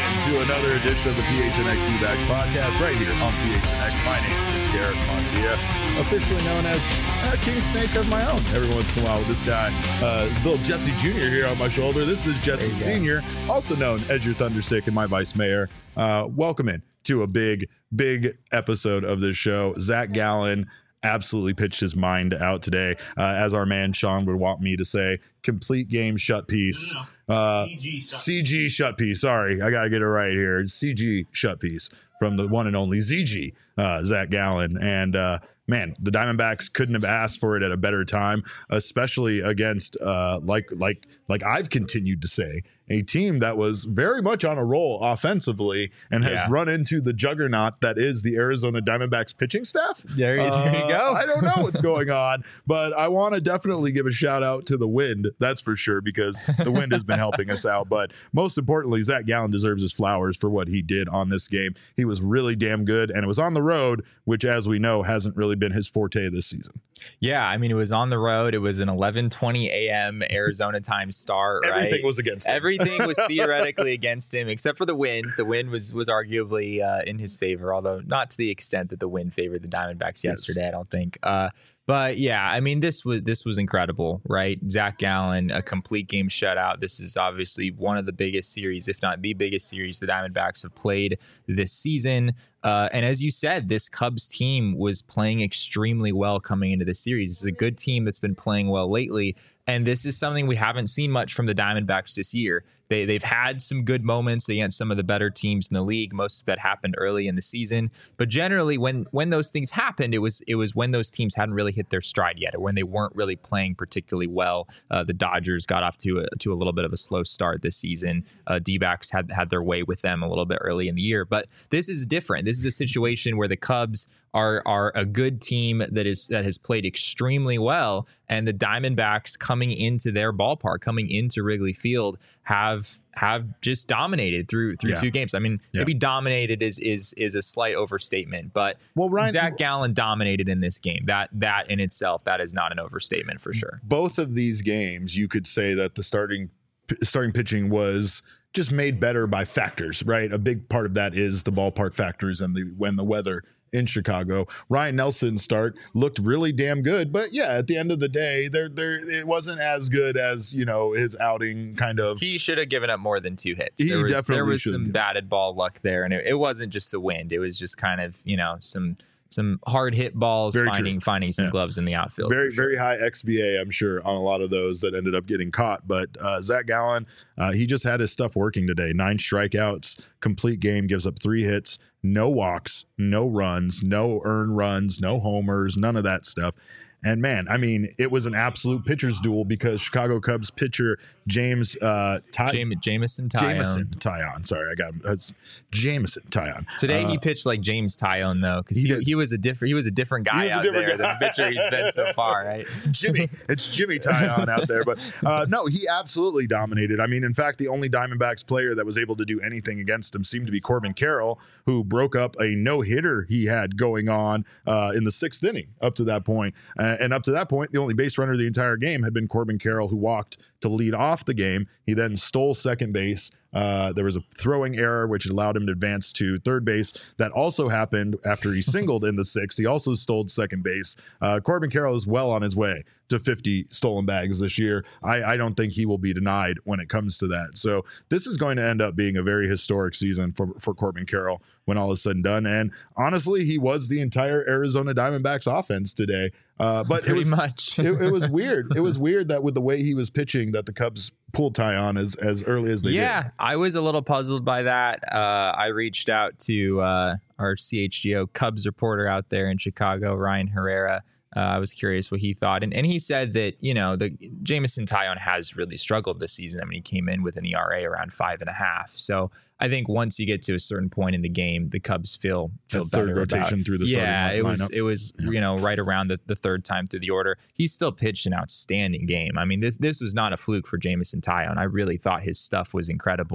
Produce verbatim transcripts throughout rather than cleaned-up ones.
to another edition of the P H N X D-Backs podcast right here on P H N X. My name is Garrett Montilla, officially known as uh, King Snake of my own. Every once in a while with this guy, uh, little Jesse Junior here on my shoulder. This is Jesse Senior, also known as your Thunderstick and my vice mayor. Uh, welcome in to a big, big episode of this show. Zach Gallen absolutely pitched his mind out today. Uh, as our man Sean would want me to say, complete game shut piece. No, no. Uh, C G shut C G shut piece. Sorry, I got to get it right here. C G shut piece from the one and only Z G, uh, Zach Gallen. And uh, man, the Diamondbacks couldn't have asked for it at a better time, especially against, uh, like, like, like I've continued to say, a team that was very much on a roll offensively and has yeah. run into the juggernaut that is the Arizona Diamondbacks pitching staff. There, you, uh, there you go. I don't know what's going on, but I want to definitely give a shout out to the wind. That's for sure, because the wind has been helping us out. But most importantly, Zach Gallen deserves his flowers for what he did on this game. He was really damn good, and it was on the road, which, as we know, hasn't really been his forte this season. Yeah, I mean, it was on the road. It was an eleven twenty a.m. Arizona time start, right? Everything was against him. Everything was theoretically against him, except for the wind. The wind was was arguably uh, in his favor, although not to the extent that the wind favored the Diamondbacks yesterday, yes. I don't think. Uh, but yeah, I mean, this was this was incredible, right? Zach Gallen, a complete game shutout. This is obviously one of the biggest series, if not the biggest series, the Diamondbacks have played this season. Uh, and as you said, this Cubs team was playing extremely well coming into the series. This is a good team that's been playing well lately. And this is something we haven't seen much from the Diamondbacks this year. They, they've had some good moments against some of the better teams in the league. Most of that happened early in the season. But generally, when when those things happened, it was it was when those teams hadn't really hit their stride yet, or when they weren't really playing particularly well. Uh, the Dodgers got off to a, to a little bit of a slow start this season. Uh, D-backs had, had their way with them a little bit early in the year. But this is different. This is a situation where the Cubs are are a good team that is that has played extremely well, and the Diamondbacks coming into their ballpark, coming into Wrigley Field, have have just dominated through through yeah. two games. I mean, yeah. maybe dominated is is is a slight overstatement, but well, Ryan, Zach Gallen dominated in this game. That that in itself, that is not an overstatement for sure. Both of these games, you could say that the starting starting pitching was just made better by factors, right? A big part of that is the ballpark factors and the when the weather in Chicago. Ryne Nelson's start looked really damn good, but yeah, at the end of the day, there there it wasn't as good as, you know, his outing kind of. He should have given up more than two hits. He there was, definitely there was should some have. batted ball luck there, and it, it wasn't just the wind. It was just kind of, you know, some some hard hit balls, very finding true. finding some yeah. gloves in the outfield. Very, sure. very high X B A, I'm sure, on a lot of those that ended up getting caught. But uh, Zach Gallen, uh, he just had his stuff working today. Nine strikeouts, complete game, gives up three hits, no walks, no runs, no earned runs, no homers, none of that stuff. And man, I mean, it was an absolute pitcher's duel because Chicago Cubs pitcher James uh, Ty- Jam- Jameson Taillon. Jameson Taillon. Sorry, I got uh, Jameson Taillon. Today uh, he pitched like James Taillon though, because he, he, he was a different he was a different guy a out different there guy. than the pitcher he's been so far, right? Jimmy, it's Jimmy Taillon out there, but uh, no, he absolutely dominated. I mean, in fact, the only Diamondbacks player that was able to do anything against him seemed to be Corbin Carroll, who broke up a no hitter he had going on uh, in the sixth inning up to that point. Uh, and up to that point, the only base runner the entire game had been Corbin Carroll, who walked to lead off the game. He then stole second base. Uh, there was a throwing error, which allowed him to advance to third base. That also happened after he singled in the sixth. He also stole second base. Uh, Corbin Carroll is well on his way to fifty stolen bags this year. I, I don't think he will be denied when it comes to that. So this is going to end up being a very historic season for, for Corbin Carroll when all is said and done. And honestly, he was the entire Arizona Diamondbacks offense today. Uh, but Pretty it was, much. it, it was weird. It was weird that with the way he was pitching that the Cubs pulled Taillon as, as early as they yeah, did. Yeah, I was a little puzzled by that. Uh, I reached out to uh, our C H G O Cubs reporter out there in Chicago, Ryan Herrera. Uh, I was curious what he thought. And and he said that, you know, the Jameson Taillon has really struggled this season. I mean, he came in with an E R A around five and a half. So I think once you get to a certain point in the game, the Cubs feel feel that third better rotation about, through the yeah, starting it was lineup. it was Yeah. you know, right around the, the third time through the order. He still pitched an outstanding game. I mean, this this was not a fluke for Jameson Taillon. I really thought his stuff was incredible.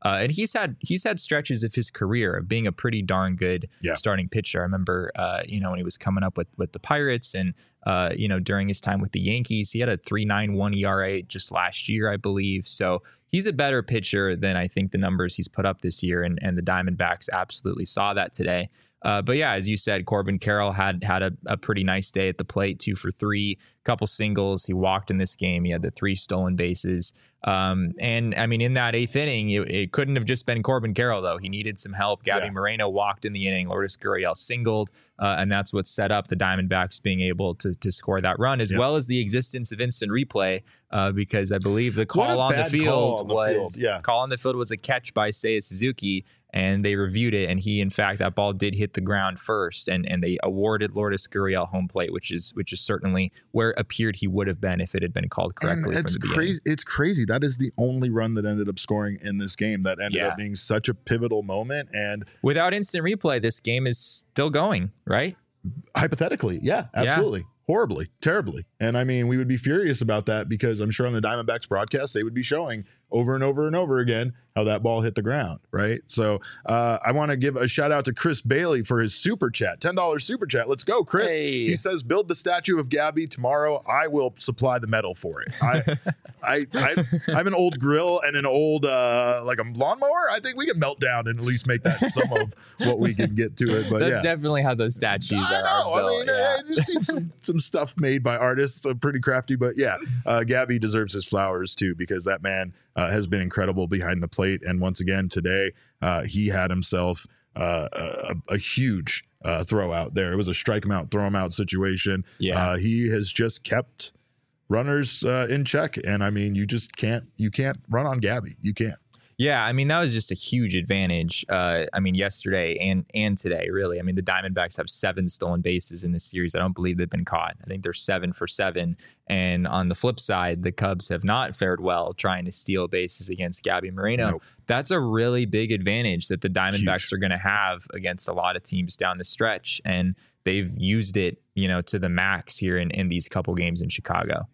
Uh, and he's had he's had stretches of his career of being a pretty darn good yeah. starting pitcher. I remember, uh, you know, when he was coming up with with the Pirates and, uh, you know, during his time with the Yankees, he had a three point nine one E R A just last year, I believe. So he's a better pitcher than I think the numbers he's put up this year. And, and the Diamondbacks absolutely saw that today. Uh, but yeah, as you said, Corbin Carroll had had a, a pretty nice day at the plate, two for three, couple singles. He walked in this game. He had the three stolen bases. Um, and I mean, in that eighth inning, it, it couldn't have just been Corbin Carroll, though. He needed some help. Gabby yeah. Moreno walked in the inning. Lourdes Gurriel singled. Uh, and that's what set up the Diamondbacks being able to, to score that run, as yep. well as the existence of instant replay, uh, because I believe the call on the field on the was field. Yeah. call on the field was a catch by Seiya Suzuki. And they reviewed it, and he, in fact, that ball did hit the ground first, and and they awarded Lourdes Gurriel home plate, which is which is certainly where it appeared he would have been if it had been called correctly. And it's from the crazy. It's crazy. That is the only run that ended up scoring in this game. That ended yeah. up being such a pivotal moment. And without instant replay, this game is still going, right? Hypothetically, yeah, absolutely. Yeah. Horribly, terribly. And I mean, we would be furious about that because I'm sure on the Diamondbacks broadcast, they would be showing over and over and over again how that ball hit the ground, right? So uh, I want to give a shout out to Chris Bailey for his super chat, ten dollars super chat. Let's go, Chris. Hey. He says, build the statue of Gabby tomorrow. I will supply the metal for it. I, I, I've, I have an old grill and an old, uh, like a lawnmower. I think we can melt down and at least make that some of what we can get to it. But that's yeah. definitely how those statues I are. know. are built. I mean, yeah. I've seen some, some stuff made by artists, uh, pretty crafty, but yeah, uh, Gabby deserves his flowers too, because that man uh, has been incredible behind the plate. And once again, today, uh, he had himself uh, a, a huge uh, throw out there. It was a strike him out, throw him out situation. Yeah. Uh, he has just kept runners uh, in check. And I mean, you just can't, you can't run on Gabby. You can't. Yeah, I mean, that was just a huge advantage. Uh, I mean, yesterday and and today, really. I mean, the Diamondbacks have seven stolen bases in this series. I don't believe they've been caught. I think they're seven for seven. And on the flip side, the Cubs have not fared well trying to steal bases against Gabby Moreno. Nope. That's a really big advantage that the Diamondbacks Huge. are going to have against a lot of teams down the stretch. And they've used it, you know, to the max here in, in these couple games in Chicago.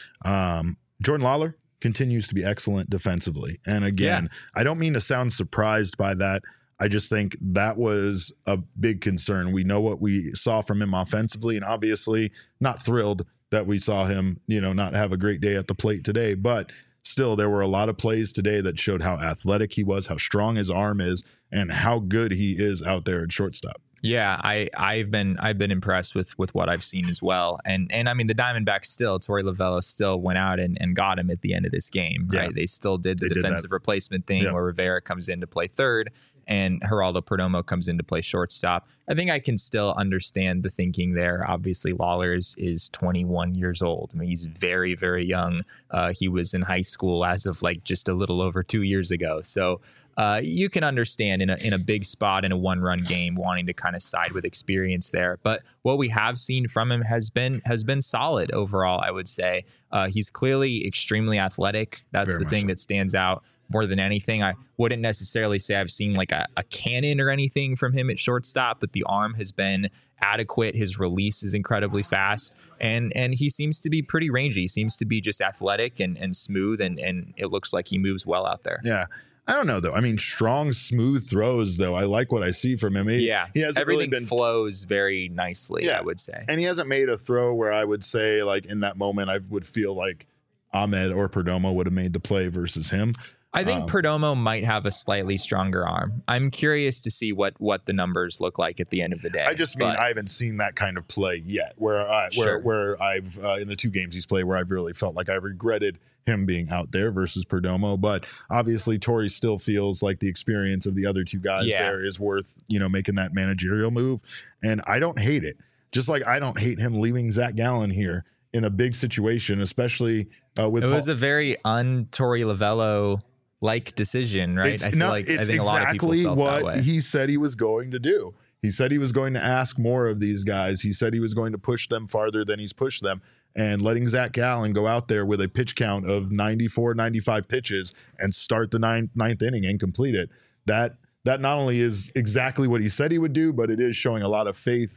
Um, Jordan Lawler continues to be excellent defensively. And again, yeah. I don't mean to sound surprised by that. I just think that was a big concern. We know what we saw from him offensively, and obviously not thrilled that we saw him, you know, not have a great day at the plate today, but still there were a lot of plays today that showed how athletic he was, how strong his arm is, and how good he is out there at shortstop. Yeah, I, I've been I've been impressed with with what I've seen as well. And and I mean, the Diamondbacks still, Torey Lovullo still went out and, and got him at the end of this game, right? Yeah. They still did the they defensive did replacement thing yeah. where Rivera comes in to play third and Geraldo Perdomo comes in to play shortstop. I think I can still understand the thinking there. Obviously, Lawler is, is twenty-one years old. I mean, he's very, very young. Uh, he was in high school as of like just a little over two years ago. So Uh, you can understand in a in a big spot in a one run game wanting to kind of side with experience there. But what we have seen from him has been has been solid overall, I would say. Uh, he's clearly extremely athletic. That's Very the thing so. that stands out more than anything. I wouldn't necessarily say I've seen like a, a cannon or anything from him at shortstop, but the arm has been adequate. His release is incredibly fast, and and he seems to be pretty rangy. He seems to be just athletic and, and smooth, and, and it looks like he moves well out there. Yeah. I don't know, though. I mean, strong, smooth throws, though. I like what I see from him. He, yeah, he hasn't everything really been flows very nicely, yeah. I would say. And he hasn't made a throw where I would say, like, in that moment, I would feel like Ahmed or Perdomo would have made the play versus him. I think um, Perdomo might have a slightly stronger arm. I'm curious to see what what the numbers look like at the end of the day. I just mean I haven't seen that kind of play yet, where I Sure. where where I've uh, in the two games he's played where I've really felt like I regretted him being out there versus Perdomo. But obviously, Torey still feels like the experience of the other two guys Yeah. there is worth, you know, making that managerial move. And I don't hate it. Just like I don't hate him leaving Zach Gallen here in a big situation, especially uh, with it Paul- was a very un-Torey Lovullo like decision, right? It's, I feel no, like it's I think exactly a lot of people felt what that way. he said he was going to do. He said he was going to ask more of these guys. He said he was going to push them farther than he's pushed them. And letting Zach Gallen go out there with a pitch count of ninety-four, ninety-five pitches and start the ninth, ninth inning and complete it, that that not only is exactly what he said he would do, but it is showing a lot of faith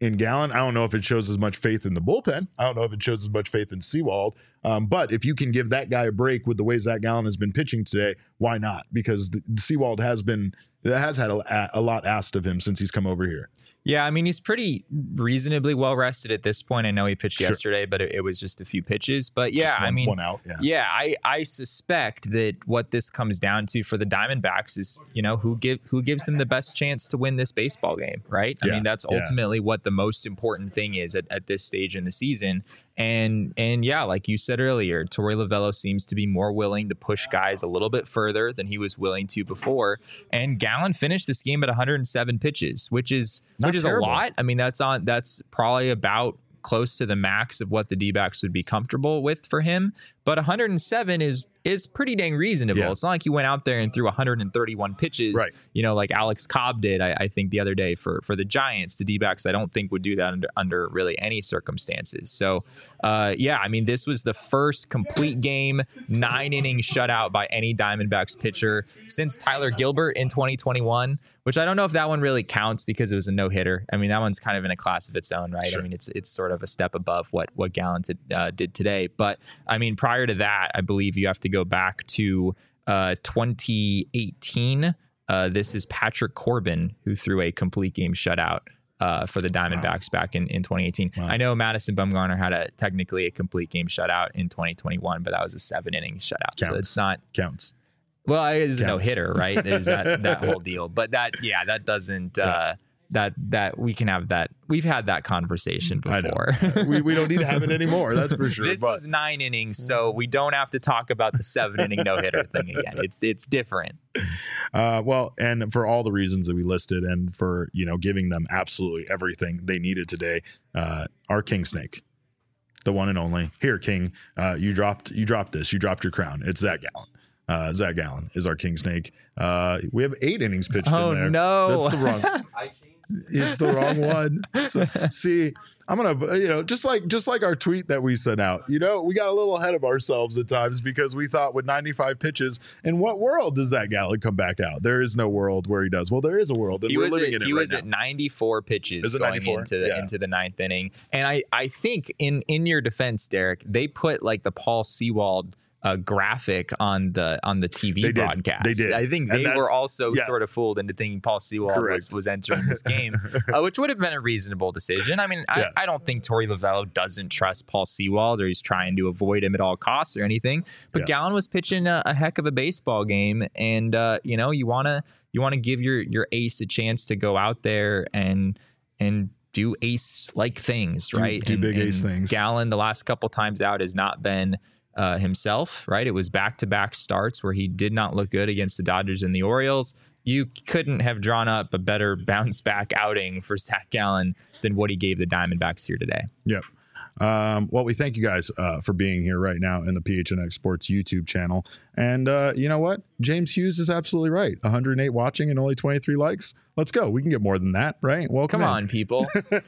in Gallen. I don't know if it shows as much faith in the bullpen. I don't know if it shows as much faith in Sewald. Um, but if you can give that guy a break with the way Zach Gallen has been pitching today, why not? Because the, Sewald has been has had a, a lot asked of him since he's come over here. Yeah, I mean, he's pretty reasonably well rested at this point. I know he pitched sure. yesterday, but it, it was just a few pitches. But yeah, one, I mean, one out. Yeah, yeah I, I suspect that what this comes down to for the Diamondbacks is, you know, who give who gives them the best chance to win this baseball game, right? I yeah, mean, that's ultimately yeah. what the most important thing is at, at this stage in the season. And and yeah, like you said earlier, Torey Lovullo seems to be more willing to push guys a little bit further than he was willing to before. And Gallen finished this game at one hundred seven pitches, which is Not which is terrible. a lot. I mean, that's on that's probably about close to the max of what the D-backs would be comfortable with for him. But one hundred seven is is pretty dang reasonable. Yeah. It's not like you went out there and threw one hundred thirty-one pitches, right. you know, like Alex Cobb did, I, I think, the other day for, for the Giants. The D-backs, I don't think, would do that under, under really any circumstances. So, uh, yeah, I mean, this was the first complete game, nine-inning shutout by any Diamondbacks pitcher since Tyler Gilbert in twenty twenty-one, which I don't know if that one really counts because it was a no-hitter. I mean, that one's kind of in a class of its own, right? Sure. I mean, it's it's sort of a step above what, what Gallen did, uh, did today. But, I mean, prior to that, I believe you have to go back to uh, twenty eighteen. Uh, this is Patrick Corbin, who threw a complete game shutout uh, for the Diamondbacks wow. back in, in twenty eighteen. Wow. I know Madison Bumgarner had a technically a complete game shutout in twenty twenty-one, but that was a seven-inning shutout. Counts. So it's not... Counts. Well, it is a no-hitter, right? There's that, that whole deal. But that, yeah, that doesn't... Uh, yeah. That that we can have that. We've had that conversation before. I know. we we don't need to have it anymore. That's for sure. This but. was nine innings, so we don't have to talk about the seven inning no hitter thing again. It's it's different. Uh, well, and for all the reasons that we listed, and for you know giving them absolutely everything they needed today, uh, our King Snake, the one and only. Here, King, uh, you dropped you dropped this. You dropped your crown. It's Zach Gallen. Uh, Zach Gallen is our King Snake. Uh, we have eight innings pitched oh, in there. no. That's the wrong. It's the wrong one. So, see, I'm gonna, you know, just like just like our tweet that we sent out. You know, we got a little ahead of ourselves at times because we thought with ninety-five pitches, in what world does that Gallen come back out? There is no world where he does. Well, there is a world, and he we're was living at, in it He right was now. at ninety-four pitches is it going ninety-four? into the Yeah. into the ninth inning, and I I think in in your defense, Derek, they put like the Paul Sewald a graphic on the on the T V they broadcast. Did. They did. I think And they were also yeah. sort of fooled into thinking Paul Sewald was, was entering this game, uh, which would have been a reasonable decision. I mean, yeah. I, I don't think Torey Lovullo doesn't trust Paul Sewald or he's trying to avoid him at all costs or anything. But yeah. Gallen was pitching a, a heck of a baseball game, and uh, you know, you wanna you wanna give your your ace a chance to go out there and and do ace like things, right? Do, do and, big and ace things. Gallen, the last couple times out, has not been Uh, himself, right? It was back-to-back starts where he did not look good against the Dodgers and the Orioles. You couldn't have drawn up a better bounce-back outing for Zach Gallen than what he gave the Diamondbacks here today. Yep. Um, well, we thank you guys uh, for being here right now in the P H N X Sports YouTube channel. And uh, you know what? James Hughes is absolutely right. one hundred eight watching and only twenty-three likes. Let's go. We can get more than that, right? Welcome Come in. on, people.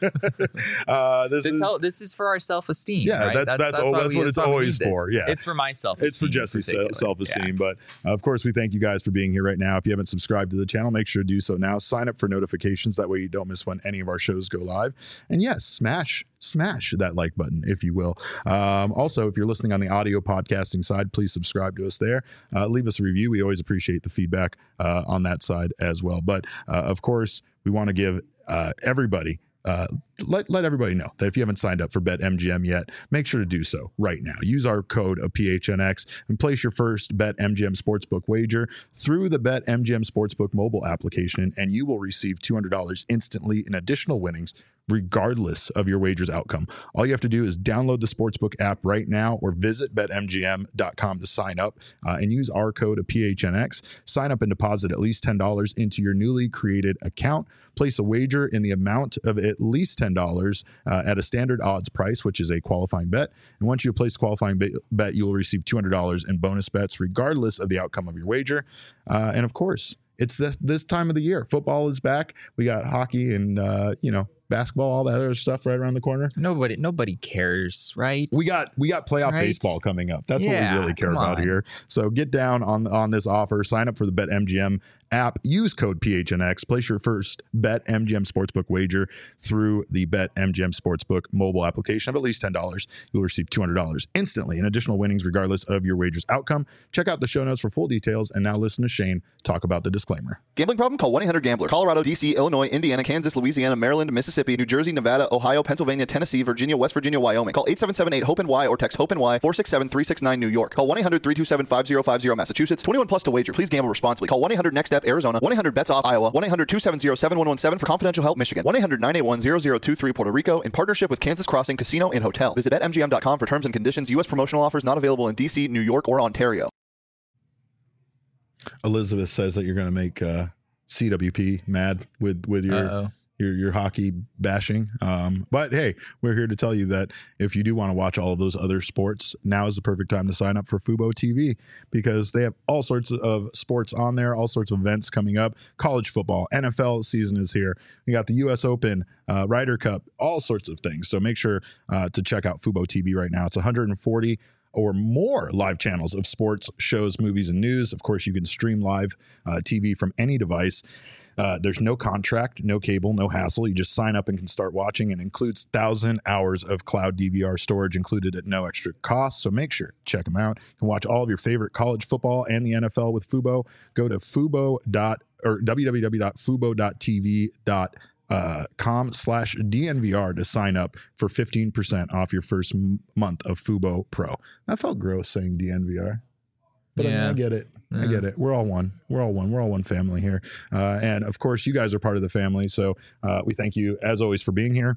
uh, this, this, is hel- this is for our self-esteem. yeah. Right? That's that's that's, all, that's we, what it's why we always need this. for. Yeah, it's for my self-esteem. It's for Jesse's in self-esteem. Yeah. But uh, of course, we thank you guys for being here right now. If you haven't subscribed to the channel, make sure to do so now. Sign up for notifications. That way you don't miss when any of our shows go live. And yes, smash smash that like button, if you will. Um, also, if you're listening on the audio podcasting side, please subscribe to us there. Uh, leave us a review. We always appreciate the feedback uh, on that side as well. But uh, of course, we want to give uh, everybody Uh, let let everybody know that if you haven't signed up for BetMGM yet, make sure to do so right now. Use our code of P H N X and place your first BetMGM Sportsbook wager through the BetMGM Sportsbook mobile application, and you will receive two hundred dollars instantly in additional winnings, regardless of your wager's outcome. All you have to do is download the Sportsbook app right now or visit bet M G M dot com to sign up uh, and use our code of P H N X. Sign up and deposit at least ten dollars into your newly created account. Place a wager in the amount of at least ten dollars uh, at a standard odds price, which is a qualifying bet. And once you place a qualifying be- bet, you will receive two hundred dollars in bonus bets, regardless of the outcome of your wager. Uh, and of course, it's this, this time of the year. Football is back. We got hockey and, uh, you know, basketball, all that other stuff right around the corner. Nobody, nobody cares, right? We got we got playoff right? baseball coming up. That's yeah, what we really care come about on. here. So get down on on this offer. Sign up for the BetMGM app. Use code P H N X. Place your first BetMGM Sportsbook wager through the BetMGM Sportsbook mobile application of at least ten dollars. You'll receive two hundred dollars instantly in additional winnings regardless of your wager's outcome. Check out the show notes for full details. And now listen to Shane talk about the disclaimer. Gambling problem? Call one eight hundred gambler. Colorado, D C, Illinois, Indiana, Kansas, Louisiana, Maryland, Mississippi, New Jersey, Nevada, Ohio, Pennsylvania, Tennessee, Virginia, West Virginia, Wyoming. Call eight seven seven eight hope Y or text HOPE-NY four six seven three six nine New York. Call one eight hundred three two seven five zero five zero Massachusetts. twenty-one plus to wager. Please gamble responsibly. Call one eight hundred next step Arizona. one eight hundred bets off Iowa. one eight hundred two seven zero seven one one seven for confidential help Michigan. one eight hundred nine eight one zero zero two three Puerto Rico in partnership with Kansas Crossing Casino and Hotel. Visit bet M G M dot com for terms and conditions. U S promotional offers not available in D C, New York, or Ontario. Elizabeth says that you're going to make uh, C W P mad with with your Uh-oh. your your hockey bashing. Um, but hey, we're here to tell you that if you do want to watch all of those other sports, now is the perfect time to sign up for Fubo T V because they have all sorts of sports on there, all sorts of events coming up. College football, N F L season is here. We got the U S Open, uh, Ryder Cup, all sorts of things. So make sure uh, to check out Fubo T V right now. It's one hundred forty or more live channels of sports, shows, movies, and news. Of course, you can stream live uh, T V from any device. Uh, there's no contract, no cable, no hassle. You just sign up and can start watching. It includes one thousand hours of cloud D V R storage included at no extra cost. So make sure, check them out. You can watch all of your favorite college football and the N F L with Fubo. Go to fubo. or w w w dot fubo dot t v dot com slash D N V R to sign up for fifteen percent off your first m- month of Fubo Pro. That felt gross saying D N V R. But Yeah. I, I get it. I get it. We're all one. We're all one. We're all one family here. Uh, and of course, you guys are part of the family. So uh, we thank you, as always, for being here.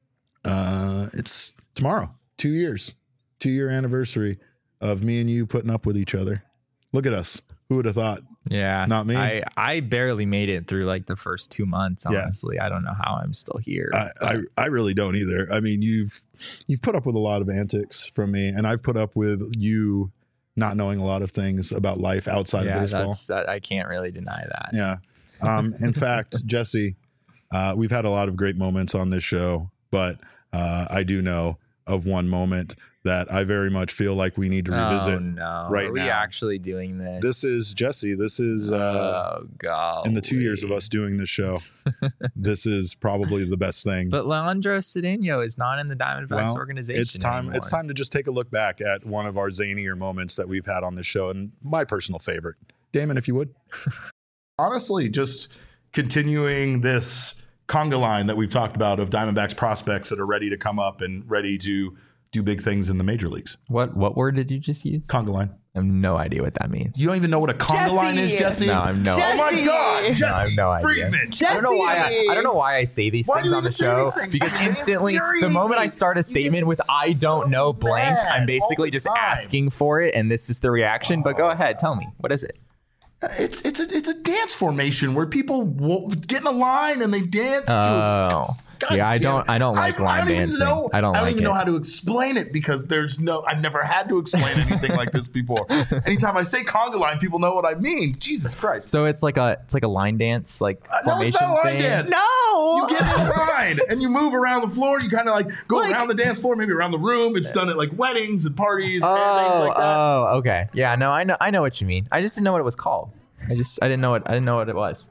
Uh, it's tomorrow, two years, two year anniversary of me and you putting up with each other. Look at us. Who would have thought? Yeah. Not me. I, I barely made it through like the first two months, Yeah. honestly. I don't know how I'm still here. I, but- I, I really don't either. I mean, you've you've put up with a lot of antics from me, and I've put up with you not knowing a lot of things about life outside yeah, of baseball. that's that. I can't really deny that. Yeah. Um, in fact, Jesse, uh, we've had a lot of great moments on this show, but uh, I do know of one moment that I very much feel like we need to revisit. Oh, no. right Are we now. actually doing this? This is Jesse. This is uh, oh, God. in the two years of us doing this show. This is probably the best thing. But Leandro Cedeno is not in the Diamondbacks Well, organization. It's time. anymore. It's time to just take a look back at one of our zanier moments that we've had on this show, and my personal favorite. Damon, if you would. Honestly, just continuing this conga line that we've talked about of Diamondbacks prospects that are ready to come up and ready to do big things in the major leagues. What what word did you just use? Conga line. I have no idea what that means. You don't even know what a conga Jesse! line is, Jesse? No, I have no Jesse! idea. Oh my God, Jesse No, I have no idea. Friedman. Jesse! I don't know why I, I don't know why I say these Why things do on you the say show these things? because They instantly the infuriate moment I me. start a statement with I don't know blank, mad I'm all basically the just time. asking for it and this is the reaction. But go ahead, tell me. What is it? It's it's a it's a dance formation where people wo- get in a line and they dance. to Oh. a, God Yeah, I damn don't- it. I don't like line don't even dancing. know- I don't I don't like even know it. how to explain it because there's no. I've never had to explain anything like this before. Anytime I say conga line, people know what I mean. Jesus Christ! So it's like a it's like a line dance like Uh, no, formation it's not a line thing. dance. No. You get in a line and you move around the floor. You kind of like go Like- around the dance floor, maybe around the room. It's done at like weddings and parties and Oh, things like that. oh, okay. Yeah, no, I know I know what you mean. I just didn't know what it was called. I just I didn't know what I didn't know what it was.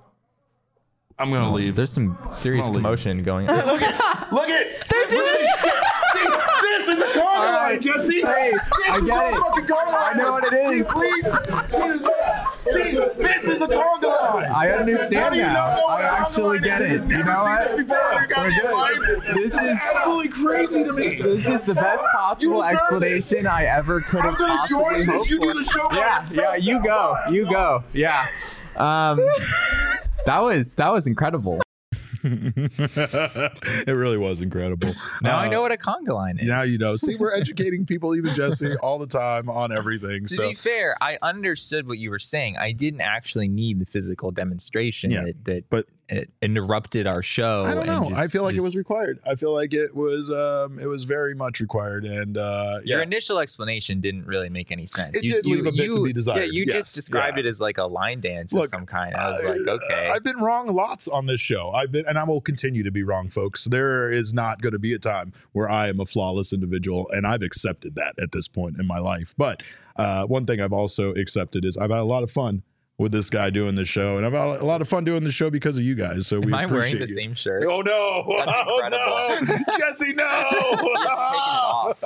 I'm gonna leave. There's some serious I'll leave. commotion going on. Look at look at. They're doing it. See, this is a conga All line, right. Jesse. Hey, this I is get a it. fucking conga line. I know what it is. Please. See, this is a conga line. I understand How do you now. not know what I a conga actually line get is? it. You've You never know seen what? this before. You guys We're line. good. This It's is absolutely crazy to me. this is the best possible You deserve explanation I ever could I'm have gonna possibly join this. hoped You do for. the show by Yeah, yourself. yeah, you go. You go. Yeah. Um that was that was incredible. It really was incredible. Now I Uh, know what a conga line is. Now you know. See, we're educating people, even Jesse, all the time on everything. To so be fair, I understood what you were saying. I didn't actually need the physical demonstration Yeah, that, that but it interrupted our show. I don't and know. just- I feel like it was just- required. I feel like it was. Um, it was very much required. And uh, Your yeah, initial explanation didn't really make any sense. It did leave a bit to be desired. Yeah, you Yes, just described yeah. it as like a line dance Look, of some kind. I was like, I- okay. I've been wrong lots on this show. I've been, and I will continue to be wrong, folks. There is not going to be a time where I am a flawless individual, and I've accepted that at this point in my life. But uh, one thing I've also accepted is I've had a lot of fun with this guy doing the show, and I've had a lot of fun doing the show because of you guys. So we Am I appreciate wearing the you. same shirt? Oh no! That's oh, incredible. No. Jesse, no! He hasn't taken it off.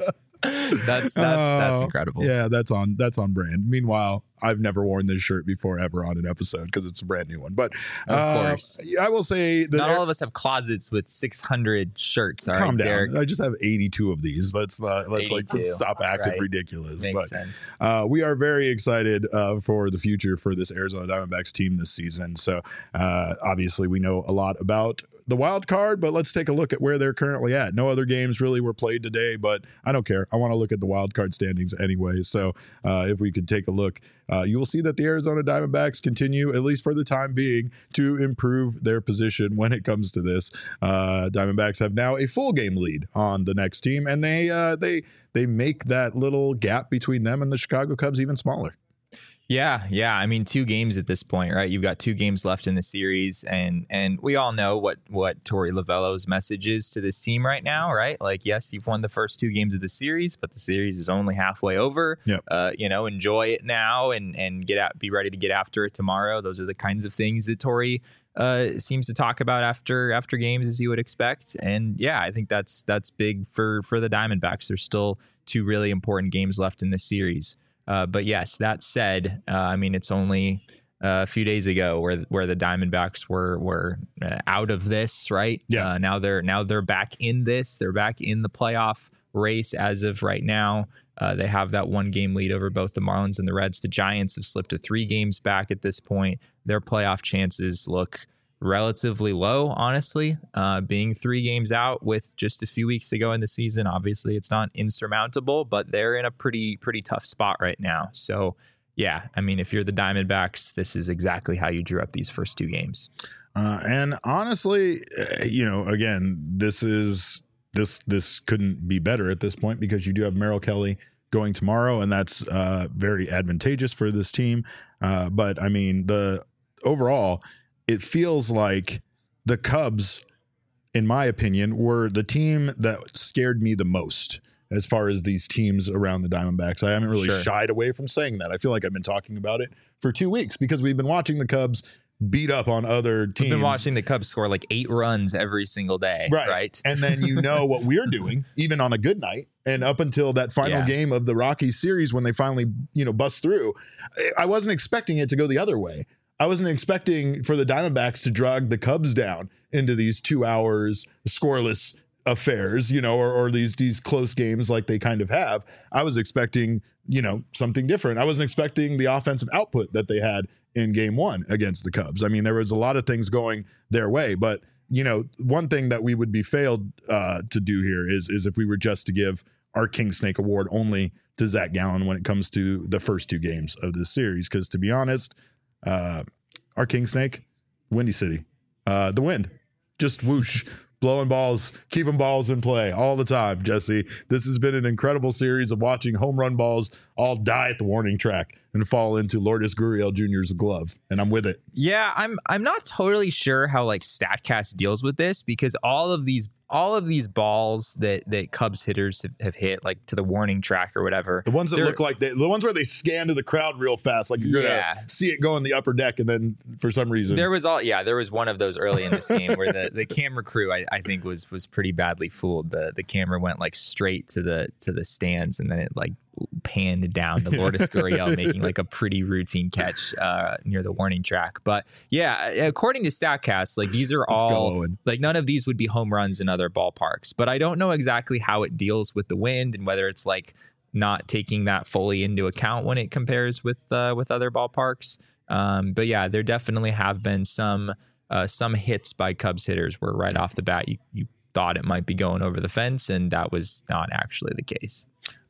That's that's that's Oh, incredible. Yeah, that's on that's on brand. Meanwhile, I've never worn this shirt before ever on an episode because it's a brand new one. But Of uh, course. I will say that Not all of us have closets with six hundred shirts. All calm right, down. Derek. I just have eighty-two of these. Let's not let's like eighty-two, let's stop acting right. ridiculous. Makes but sense. uh, we are very excited uh, for the future for this Arizona Diamondbacks team this season. So uh, obviously, we know a lot about the wild card, but let's take a look at where they're currently at. No other games really were played today, but I don't care. I want to look at the wild card standings anyway. So uh, if we could take a look, uh, you will see that the Arizona Diamondbacks continue, at least for the time being, to improve their position when it comes to this. Uh, Diamondbacks have now a full game lead on the next team, and they uh, they they make that little gap between them and the Chicago Cubs even smaller. Yeah, yeah. I mean, two games at this point, right? You've got two games left in the series, and and we all know what what Torey Lovullo's message is to this team right now, right? Like, yes, you've won the first two games of the series, but the series is only halfway over. Yep. Uh, you know, enjoy it now and and get out, be ready to get after it tomorrow. Those are the kinds of things that Torey uh, seems to talk about after after games, as you would expect. And yeah, I think that's that's big for for the Diamondbacks. There's still two really important games left in this series. Uh, but yes, that said, uh, I mean, it's only uh, a few days ago where where the Diamondbacks were were uh, out of this, right? Yeah. Uh, now they're now they're back in this. They're back in the playoff race as of right now. Uh, they have that one game lead over both the Marlins and the Reds. The Giants have slipped to three games back at this point. Their playoff chances look relatively low, honestly, uh, being three games out with just a few weeks to go in the season. Obviously, it's not insurmountable, but they're in a pretty, pretty tough spot right now. So, yeah, I mean, if you're the Diamondbacks, this is exactly how you drew up these first two games. Uh, and honestly, uh, you know, again, this is this this couldn't be better at this point because you do have Merrill Kelly going tomorrow, and that's uh, very advantageous for this team. Uh, but I mean, the overall, it feels like the Cubs, in my opinion, were the team that scared me the most as far as these teams around the Diamondbacks. I haven't really Sure. shied away from saying that. I feel like I've been talking about it for two weeks because we've been watching the Cubs beat up on other teams. We've been watching the Cubs score like eight runs every single day, Right. right? And then you know what we're doing, even on a good night. And up until that final Yeah. game of the Rockies series when they finally, you know, bust through, I wasn't expecting it to go the other way. I wasn't expecting for the Diamondbacks to drag the Cubs down into these two hours scoreless affairs, you know, or, or these these close games like they kind of have. I was expecting, you know, something different. I wasn't expecting the offensive output that they had in game one against the Cubs. I mean, there was a lot of things going their way, but you know, one thing that we would be failed uh, to do here is is if we were just to give our King Snake Award only to Zach Gallen when it comes to the first two games of this series. Because to be honest, uh, our King Snake, Windy City, uh, the wind, just whoosh, blowing balls, keeping balls in play all the time, Jesse. This has been an incredible series of watching home run balls all die at the warning track and fall into Lourdes Gurriel Junior's glove, and I'm with it. Yeah, I'm I'm not totally sure how like StatCast deals with this because all of these all of these balls that that Cubs hitters have, have hit like to the warning track or whatever. The ones that they're- look like they, the ones where they scan to the crowd real fast, like you're Yeah. gonna see it go in the upper deck, and then for some reason There was all yeah, there was one of those early in this game where the, the camera crew I, I think was was pretty badly fooled. The the camera went like straight to the to the stands and then it like panned down to Lourdes Gurriel making like a pretty routine catch uh, near the warning track. But yeah, according to StatCast, like these are Let's go, all Owen. like none of these would be home runs in other ballparks. But I don't know exactly how it deals with the wind and whether it's like not taking that fully into account when it compares with uh, with other ballparks. Um, but yeah, there definitely have been some uh, some hits by Cubs hitters where right off the bat you you thought it might be going over the fence, and that was not actually the case.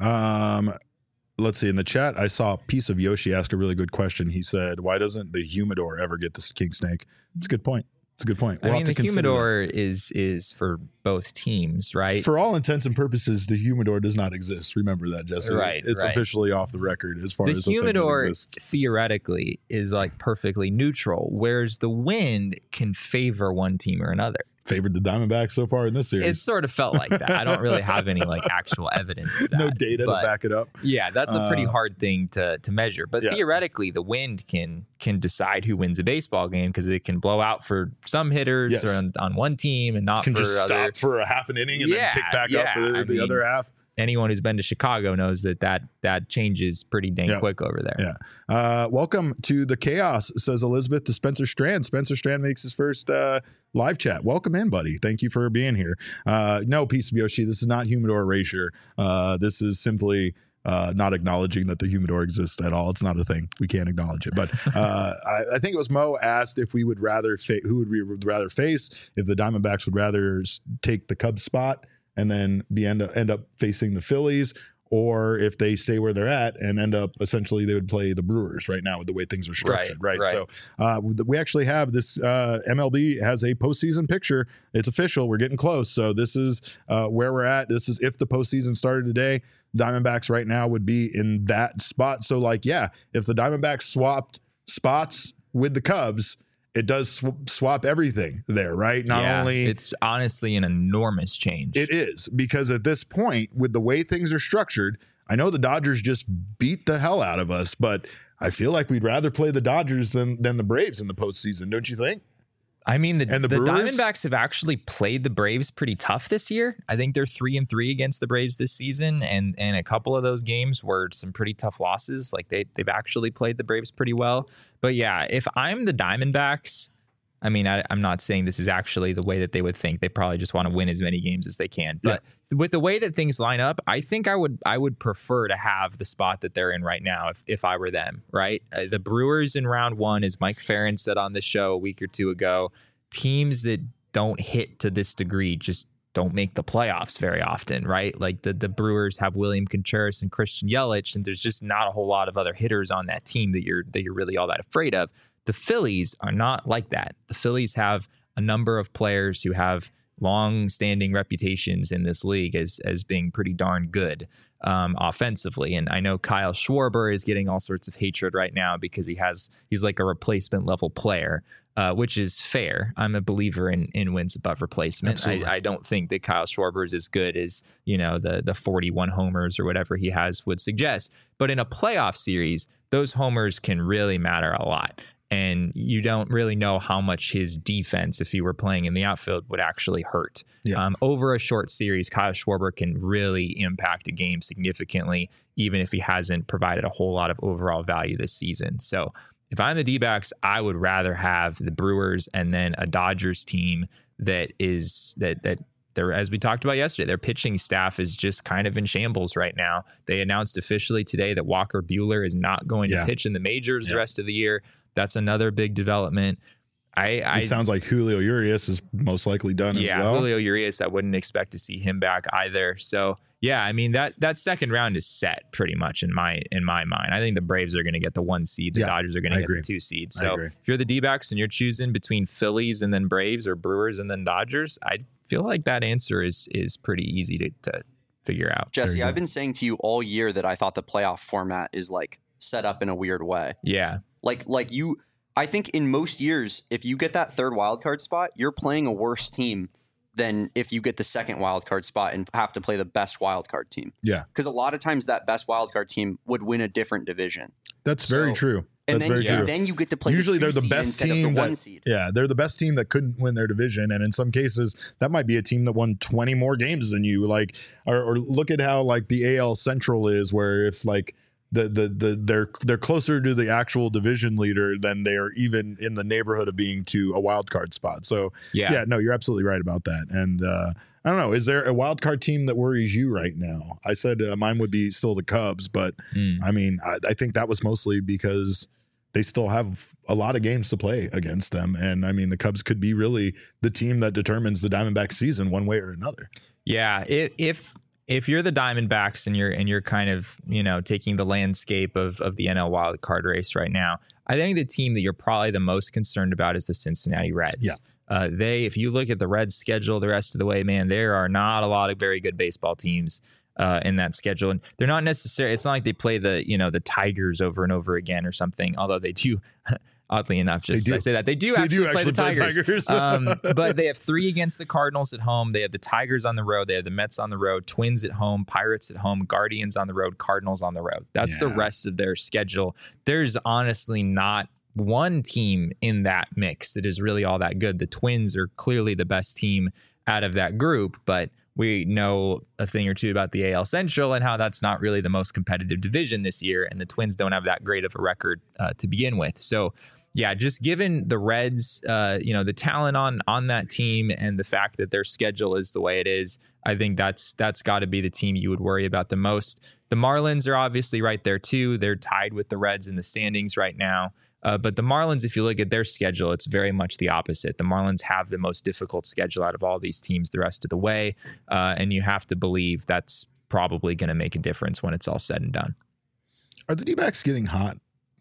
Um, let's see. In the chat, I saw a piece of Yoshi ask a really good question. He said, "Why doesn't the humidor ever get this king snake?" It's a good point. It's a good point. We'll I have mean, to the consider humidor is is for both teams, that. right? For all intents and purposes, the humidor does not exist. Remember that, Jesse. Right, It's right. officially off the record as far The as the thing that humidor exists. theoretically is like perfectly neutral, whereas the wind can favor one team or another. favored the Diamondbacks so far in this series. It sort of felt like that. I don't really have any like actual evidence of that. No data but, to back it up. Yeah, that's a pretty Uh, hard thing to to measure. But yeah. theoretically, the wind can can decide who wins a baseball game because it can blow out for some hitters Yes. or on, on one team and not Can for just other. stop for a half an inning and Yeah, then kick back yeah, up for the, I the mean, other half. Anyone who's been to Chicago knows that that, that changes pretty dang Yeah. quick over there. Yeah. Uh, welcome to the chaos, says Elizabeth to Spencer Strand. Spencer Strand makes his first uh, live chat. Welcome in, buddy. Thank you for being here. Uh, no, Piece of Yoshi, this is not humidor erasure. Uh, this is simply uh, not acknowledging that the humidor exists at all. It's not a thing. We can't acknowledge it. But uh, I, I think it was Mo asked if we would rather, fa- who would we would rather face, if the Diamondbacks would rather s- take the Cubs spot and then be end up, end up facing the Phillies, or if they stay where they're at and end up essentially they would play the Brewers right now with the way things are structured, right? Right, So uh, we actually have this uh, M L B has a postseason picture. It's official. We're getting close. So this is uh, where we're at. This is if the postseason started today. Diamondbacks right now would be in that spot. So like, yeah, if the Diamondbacks swapped spots with the Cubs, it does sw- swap everything there, right? Not Yeah, only it's honestly an enormous change. it is, because at this point, with the way things are structured, I know the Dodgers just beat the hell out of us, but I feel like we'd rather play the Dodgers than than the Braves in the postseason, don't you think? I mean, the, And the the, Brewers? Diamondbacks have actually played the Braves pretty tough this year. I think they're three and three against the Braves this season, and and a couple of those games were some pretty tough losses. Like they they've actually played the Braves pretty well. But yeah, if I'm the Diamondbacks, I mean, I, I'm not saying this is actually the way that they would think. They probably just want to win as many games as they can. But with the way that things line up, I think I would I would prefer to have the spot that they're in right now if, if I were them, right? Uh, the Brewers in round one, as Mike Farron said on the show a week or two ago, teams that don't hit to this degree just don't make the playoffs very often, right? Like the, the Brewers have William Contreras and Christian Yelich, and there's just not a whole lot of other hitters on that team that you're that you're really all that afraid of. The Phillies are not like that. The Phillies have a number of players who have long-standing reputations in this league as as being pretty darn good um, offensively. And I know Kyle Schwarber is getting all sorts of hatred right now because he has he's like a replacement level player, uh, which is fair. I'm a believer in in wins above replacement. I, I don't think that Kyle Schwarber is as good as, you know, the the forty-one homers or whatever he has would suggest. But in a playoff series, those homers can really matter a lot. And you don't really know how much his defense, if he were playing in the outfield, would actually hurt. Yeah. Um, over a short series, Kyle Schwarber can really impact a game significantly, even if he hasn't provided a whole lot of overall value this season. So if I'm the D-backs, I would rather have the Brewers and then a Dodgers team that is that that they're, as we talked about yesterday, their pitching staff is just kind of in shambles right now. They announced officially today that Walker Buehler is not going Yeah. to pitch in the majors Yeah. the rest of the year. That's another big development. I, I It sounds like Julio Urias is most likely done yeah, as well. Julio Urias, I wouldn't expect to see him back either. So yeah, I mean that that second round is set pretty much in my in my mind. I think the Braves are going to get the one seed. The Yeah, Dodgers are going I to get agree. the two seed. I So agree. if you're the D-backs and you're choosing between Phillies and then Braves or Brewers and then Dodgers, I feel like that answer is is pretty easy to, to figure out. There Jesse, you go. I've been saying to you all year that I thought the playoff format is like set up in a weird way. Yeah. Like like you I think in most years, if you get that third wild card spot, you're playing a worse team than if you get the second wild card spot and have to play the best wild card team. Yeah. Because a lot of times that best wild card team would win a different division. That's very So- true. And That's then, very you, true. then you get to play Usually the two they're the seed best instead team of the that- one seed. Yeah, they're the best team that couldn't win their division, and in some cases, that might be a team that won twenty more games than you. Like, or, or look at how like the A L Central is, where if like the the the they're they're closer to the actual division leader than they are even in the neighborhood of being to a wild card spot. So Yeah. yeah, no, you're absolutely right about that. And uh, I don't know, is there a wild card team that worries you right now? I said uh, mine would be still the Cubs, but Mm. I mean, I, I think that was mostly because they still have a lot of games to play against them. And I mean, the Cubs could be really the team that determines the Diamondbacks season one way or another. Yeah, if if if you're the Diamondbacks and you're and you're kind of, you know, taking the landscape of of the N L wild card race right now, I think the team that you're probably the most concerned about is the Cincinnati Reds. Yeah. Uh, they, if you look at the Reds schedule the rest of the way, man, there are not a lot of very good baseball teams uh, in that schedule, and they're not necessarily. It's not like they play the, you know, the Tigers over and over again or something. Although they do, Oddly enough, just do. I say that they do They actually, do play the actually play Tigers. Tigers. um, but they have three against the Cardinals at home. They have the Tigers on the road. They have the Mets on the road, Twins at home, Pirates at home, Guardians on the road, Cardinals on the road. That's Yeah. the rest of their schedule. There's honestly not one team in that mix that is really all that good. The Twins are clearly the best team out of that group, but we know a thing or two about the A L Central and how that's not really the most competitive division this year, and the Twins don't have that great of a record uh, to begin with. So, yeah, just given the Reds, uh, you know, the talent on on that team and the fact that their schedule is the way it is, I think that's that's got to be the team you would worry about the most. The Marlins are obviously right there too. They're tied with the Reds in the standings right now. Uh, but the Marlins, if you look at their schedule, it's very much the opposite. The Marlins have the most difficult schedule out of all these teams the rest of the way. Uh, and you have to believe that's probably going to make a difference when it's all said and done. Are the D-backs getting hot?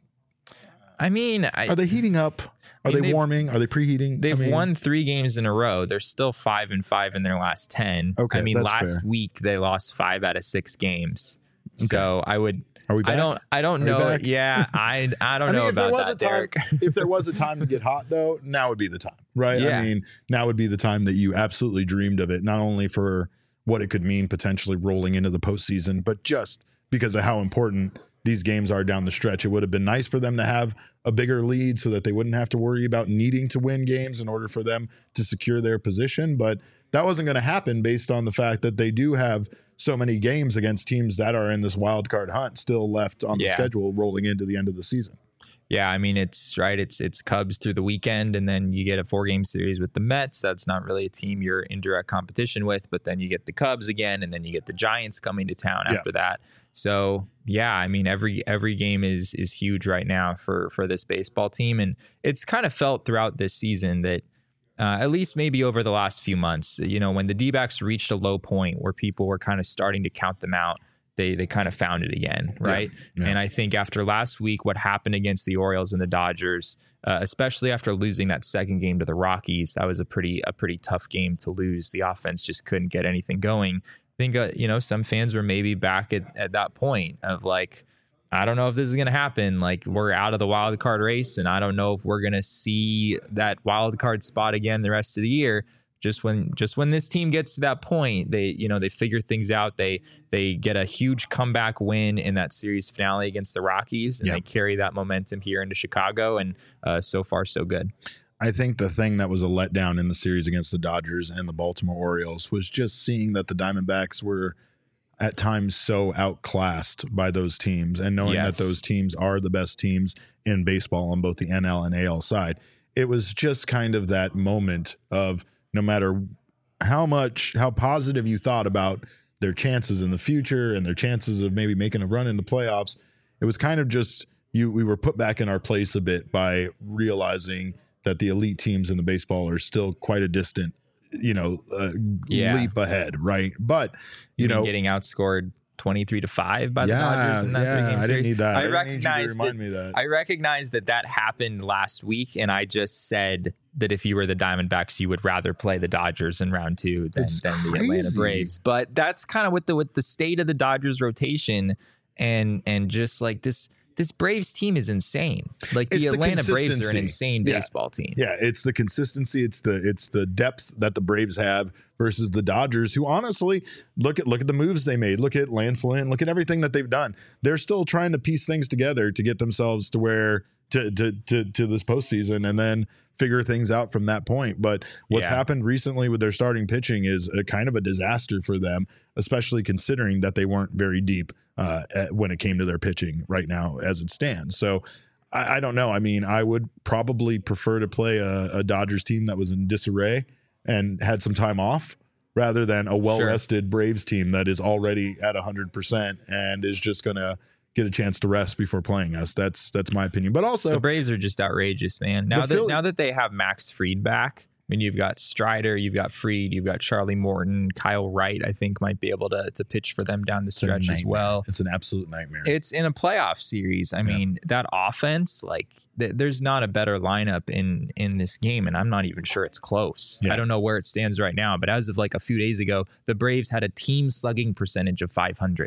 I mean, I, Are they heating up? Are I mean, they they've- warming? Are they preheating? they've I mean, won three games in a row. They're still five and five in their last ten. Okay, I mean, that's last fair. week they lost five out of six games. Okay. So I would. Are we back? I don't. I don't Are we know. back? Yeah, I. I don't I mean, know if there about was that, a time, Derek. if there was a time to get hot, though, now would be the time, right? Yeah. I mean, now would be the time that you absolutely dreamed of it, not only for what it could mean potentially rolling into the postseason, but just because of how important these games are down the stretch. It would have been nice for them to have a bigger lead so that they wouldn't have to worry about needing to win games in order for them to secure their position. But that wasn't going to happen based on the fact that they do have so many games against teams that are in this wild card hunt still left on the Yeah. schedule rolling into the end of the season. Yeah, I mean it's right. It's it's Cubs through the weekend, and then you get a four game series with the Mets. That's not really a team you're in direct competition with, but then you get the Cubs again, and then you get the Giants coming to town Yeah. after that. So yeah, I mean every every game is is huge right now for for this baseball team, and it's kind of felt throughout this season that uh, at least maybe over the last few months, you know, when the D-backs reached a low point where people were kind of starting to count them out, they they kind of found it again, right? Yeah, yeah. And I think after last week, what happened against the Orioles and the Dodgers, uh, especially after losing that second game to the Rockies, that was a pretty a pretty tough game to lose. The offense just couldn't get anything going. I think uh, you know some fans were maybe back at, at that point of like, I don't know if this is going to happen. Like we're out of the wild card race, and I don't know if we're going to see that wild card spot again the rest of the year. Just when just when this team gets to that point, they you know they figure things out. They they get a huge comeback win in that series finale against the Rockies, and Yeah. they carry that momentum here into Chicago. And uh, so far, so good. I think the thing that was a letdown in the series against the Dodgers and the Baltimore Orioles was just seeing that the Diamondbacks were at times so outclassed by those teams, and knowing Yes. that those teams are the best teams in baseball on both the N L and A L side. It was just kind of that moment of no matter how much, how positive you thought about their chances in the future and their chances of maybe making a run in the playoffs, it was kind of just you. We were put back in our place a bit by realizing that the elite teams in the baseball are still quite a distant, you know, uh, Yeah. leap ahead, right? But you Even know, getting outscored twenty-three to five by the yeah, Dodgers in that yeah, three game I series. didn't need that. I, I didn't need you to recognize remind that, me that. I recognize that that happened last week, and I just said that if you were the Diamondbacks, you would rather play the Dodgers in round two than, It's than the Atlanta crazy. Braves. But that's kind of with the with the state of the Dodgers rotation, and and just like this. This Braves team is insane. Like the It's the Atlanta Braves are an consistency. insane Yeah. baseball team. Yeah, it's the consistency, it's the it's the depth that the Braves have versus the Dodgers, who honestly look at look at the moves they made. Look at Lance Lynn, look at everything that they've done. They're still trying to piece things together to get themselves to where to to to, to this postseason, and then figure things out from that point. But what's Yeah. happened recently with their starting pitching is a kind of a disaster for them, especially considering that they weren't very deep uh, at, when it came to their pitching right now as it stands. So I, I don't know. I mean, I would probably prefer to play a, a Dodgers team that was in disarray and had some time off rather than a well-rested Braves team that is already at one hundred percent and is just going to get a chance to rest before playing us. That's that's my opinion. But also, The Braves are just outrageous, man. Now The that Philly- now that they have Max Fried back, I mean, you've got Strider, you've got Fried, you've got Charlie Morton, Kyle Wright. I think might be able to to pitch for them down the it's a stretch as nightmare. well. It's an absolute nightmare. It's in a playoff series. I mean, that offense, like, th- there's not a better lineup in in this game, and I'm not even sure it's close. Yeah. I don't know where it stands right now, but as of like a few days ago, the Braves had a team slugging percentage of five hundred.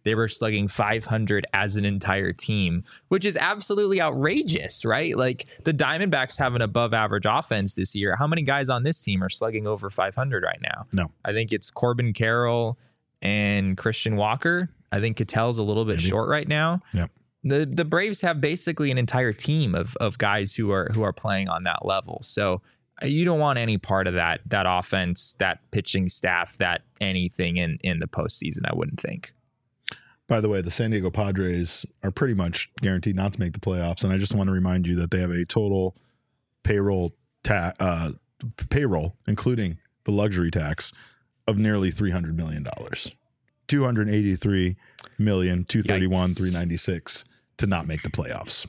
they were slugging five hundred as an entire team, which is absolutely outrageous, right? Like the Diamondbacks have an above average offense this year. How many guys on this team are slugging over five hundred right now? No. I think it's Corbin Carroll and Christian Walker. I think Ketel's a little bit Maybe. short right now. Yep. The the Braves have basically an entire team of of guys who are who are playing on that level. So you don't want any part of that that offense, that pitching staff, that anything in in the postseason, I wouldn't think. By the way, the San Diego Padres are pretty much guaranteed not to make the playoffs, and I just want to remind you that they have a total payroll ta- uh, payroll, including the luxury tax, of nearly three hundred million dollars. two hundred eighty-three million, two thirty-one, three ninety-six to not make the playoffs.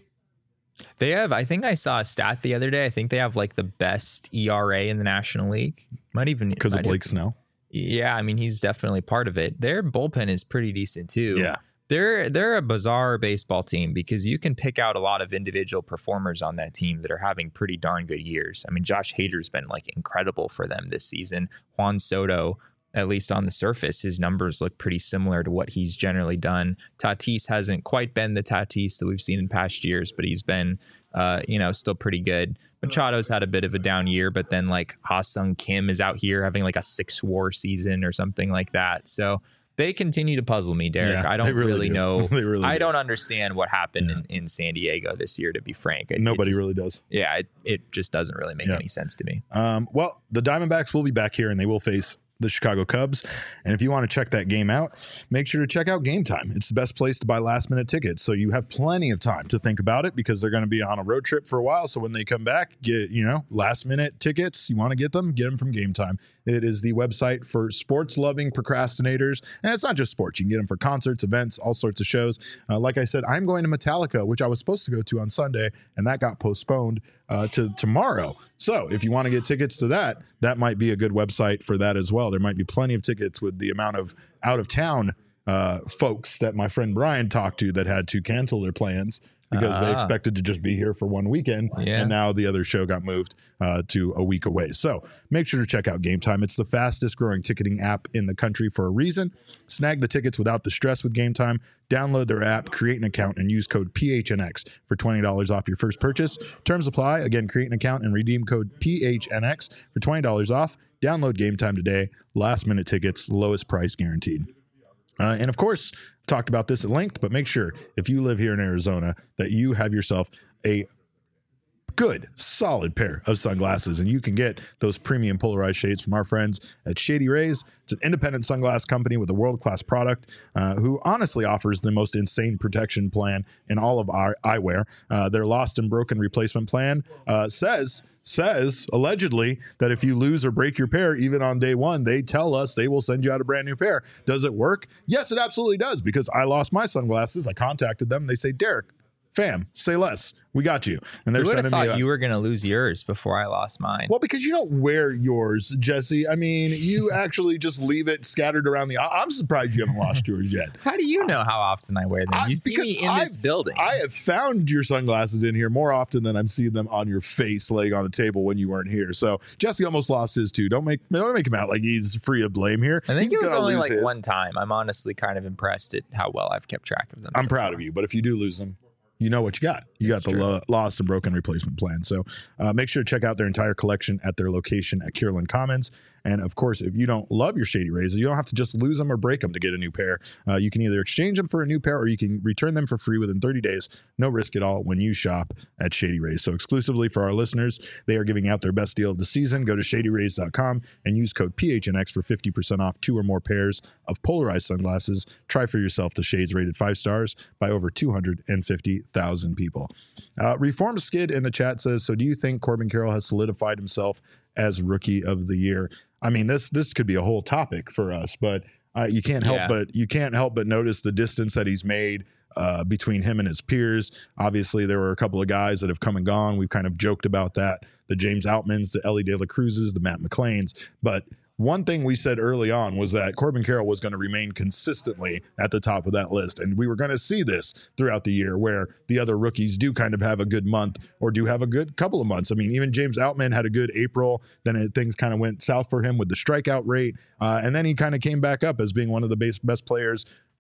They have, I think I saw a stat the other day. I think they have like the best E R A in the National League. Might even because of Blake even, Snell. Yeah, I mean he's definitely part of it. Their bullpen is pretty decent too. Yeah. They're they're a bizarre baseball team because you can pick out a lot of individual performers on that team that are having pretty darn good years. I mean, Josh Hader's been like incredible for them this season. Juan Soto, at least on the surface, his numbers look pretty similar to what he's generally done. Tatis hasn't quite been the Tatis that we've seen in past years, but he's been, uh, you know, still pretty good. Machado's had a bit of a down year, but then like Ha-Sung Kim is out here having like a six war season or something like that. So they continue to puzzle me, Derek. Yeah, I don't really, really do. know. really I do. don't understand what happened Yeah. in, in San Diego this year, to be frank. It, Nobody it just, really does. Yeah, it, it just doesn't really make Yeah. any sense to me. Um, well, the Diamondbacks will be back here, and they will face the Chicago Cubs. And if you want to check that game out, make sure to check out Game Time. It's the best place to buy last minute tickets. So you have plenty of time to think about it because they're going to be on a road trip for a while. So when they come back, get, you know, last minute tickets, you want to get them, get them from Game Time. It is the website for sports loving procrastinators. And it's not just sports. You can get them for concerts, events, all sorts of shows. Uh, like I said, I'm going to Metallica, which I was supposed to go to on Sunday, and that got postponed uh, to tomorrow. So if you want to get tickets to that, that might be a good website for that as well. There might be plenty of tickets with the amount of out of town uh, folks that my friend Brian talked to that had to cancel their plans because Ah. they expected to just be here for one weekend. Yeah. And now the other show got moved uh, to a week away. So make sure to check out Game Time. It's the fastest growing ticketing app in the country for a reason. Snag the tickets without the stress with Game Time. Download their app, create an account, and use code P H N X for twenty dollars off your first purchase. Terms apply. Again, create an account and redeem code P H N X for twenty dollars off. Download Game Time today. Last minute tickets, lowest price guaranteed. Uh, and of course, talked about this at length, but make sure if you live here in Arizona that you have yourself a good, solid pair of sunglasses, and you can get those premium polarized shades from our friends at Shady Rays. It's an independent sunglass company with a world-class product uh, who honestly offers the most insane protection plan in all of our eyewear. Uh, their lost and broken replacement plan uh, says says allegedly that if you lose or break your pair, even on day one, they tell us they will send you out a brand new pair. Does it work? Yes, it absolutely does, because I lost my sunglasses. I contacted them. They say, Derek, fam, say less. We got you. And they're Who would have sending me thought a- you were going to lose yours before I lost mine? Well, because you don't wear yours, Jesse. I mean, you actually just leave it scattered around the. I'm surprised you haven't lost yours yet. How do you know how often I wear them? I- You see because me in this I've- building. I have found your sunglasses in here more often than I'm seeing them on your face laying on the table when you weren't here. So Jesse almost lost his too. Don't make don't make him out like he's free of blame here. I think He's it was gonna only lose like his. one time. I'm honestly kind of impressed at how well I've kept track of them. I'm so proud far. of you, but if you do lose them, you know what you got. You That's got the true. lo- lost and broken replacement plan. So uh, make sure to check out their entire collection at their location at Kierland Commons. And of course, if you don't love your Shady Rays, you don't have to just lose them or break them to get a new pair. Uh, you can either exchange them for a new pair or you can return them for free within thirty days. No risk at all when you shop at Shady Rays. So exclusively for our listeners, they are giving out their best deal of the season. Go to shady rays dot com and use code P H N X for fifty percent off two or more pairs of polarized sunglasses. Try for yourself the shades rated five stars by over two hundred fifty thousand people. Uh, Reform Skid in the chat says, so do you think Corbin Carroll has solidified himself as Rookie of the Year? I mean, this this could be a whole topic for us, but uh, you can't help Yeah. but you can't help but notice the distance that he's made uh, between him and his peers. Obviously, there were a couple of guys that have come and gone. We've kind of joked about that: the James Outmans, the Ellie De La Cruzes, the Matt McClains. But one thing we said early on was that Corbin Carroll was going to remain consistently at the top of that list. And we were going to see this throughout the year where the other rookies do kind of have a good month or do have a good couple of months. I mean, even James Outman had a good April. Then it, things kind of went south for him with the strikeout rate. Uh, and then he kind of came back up as being one of the base, best players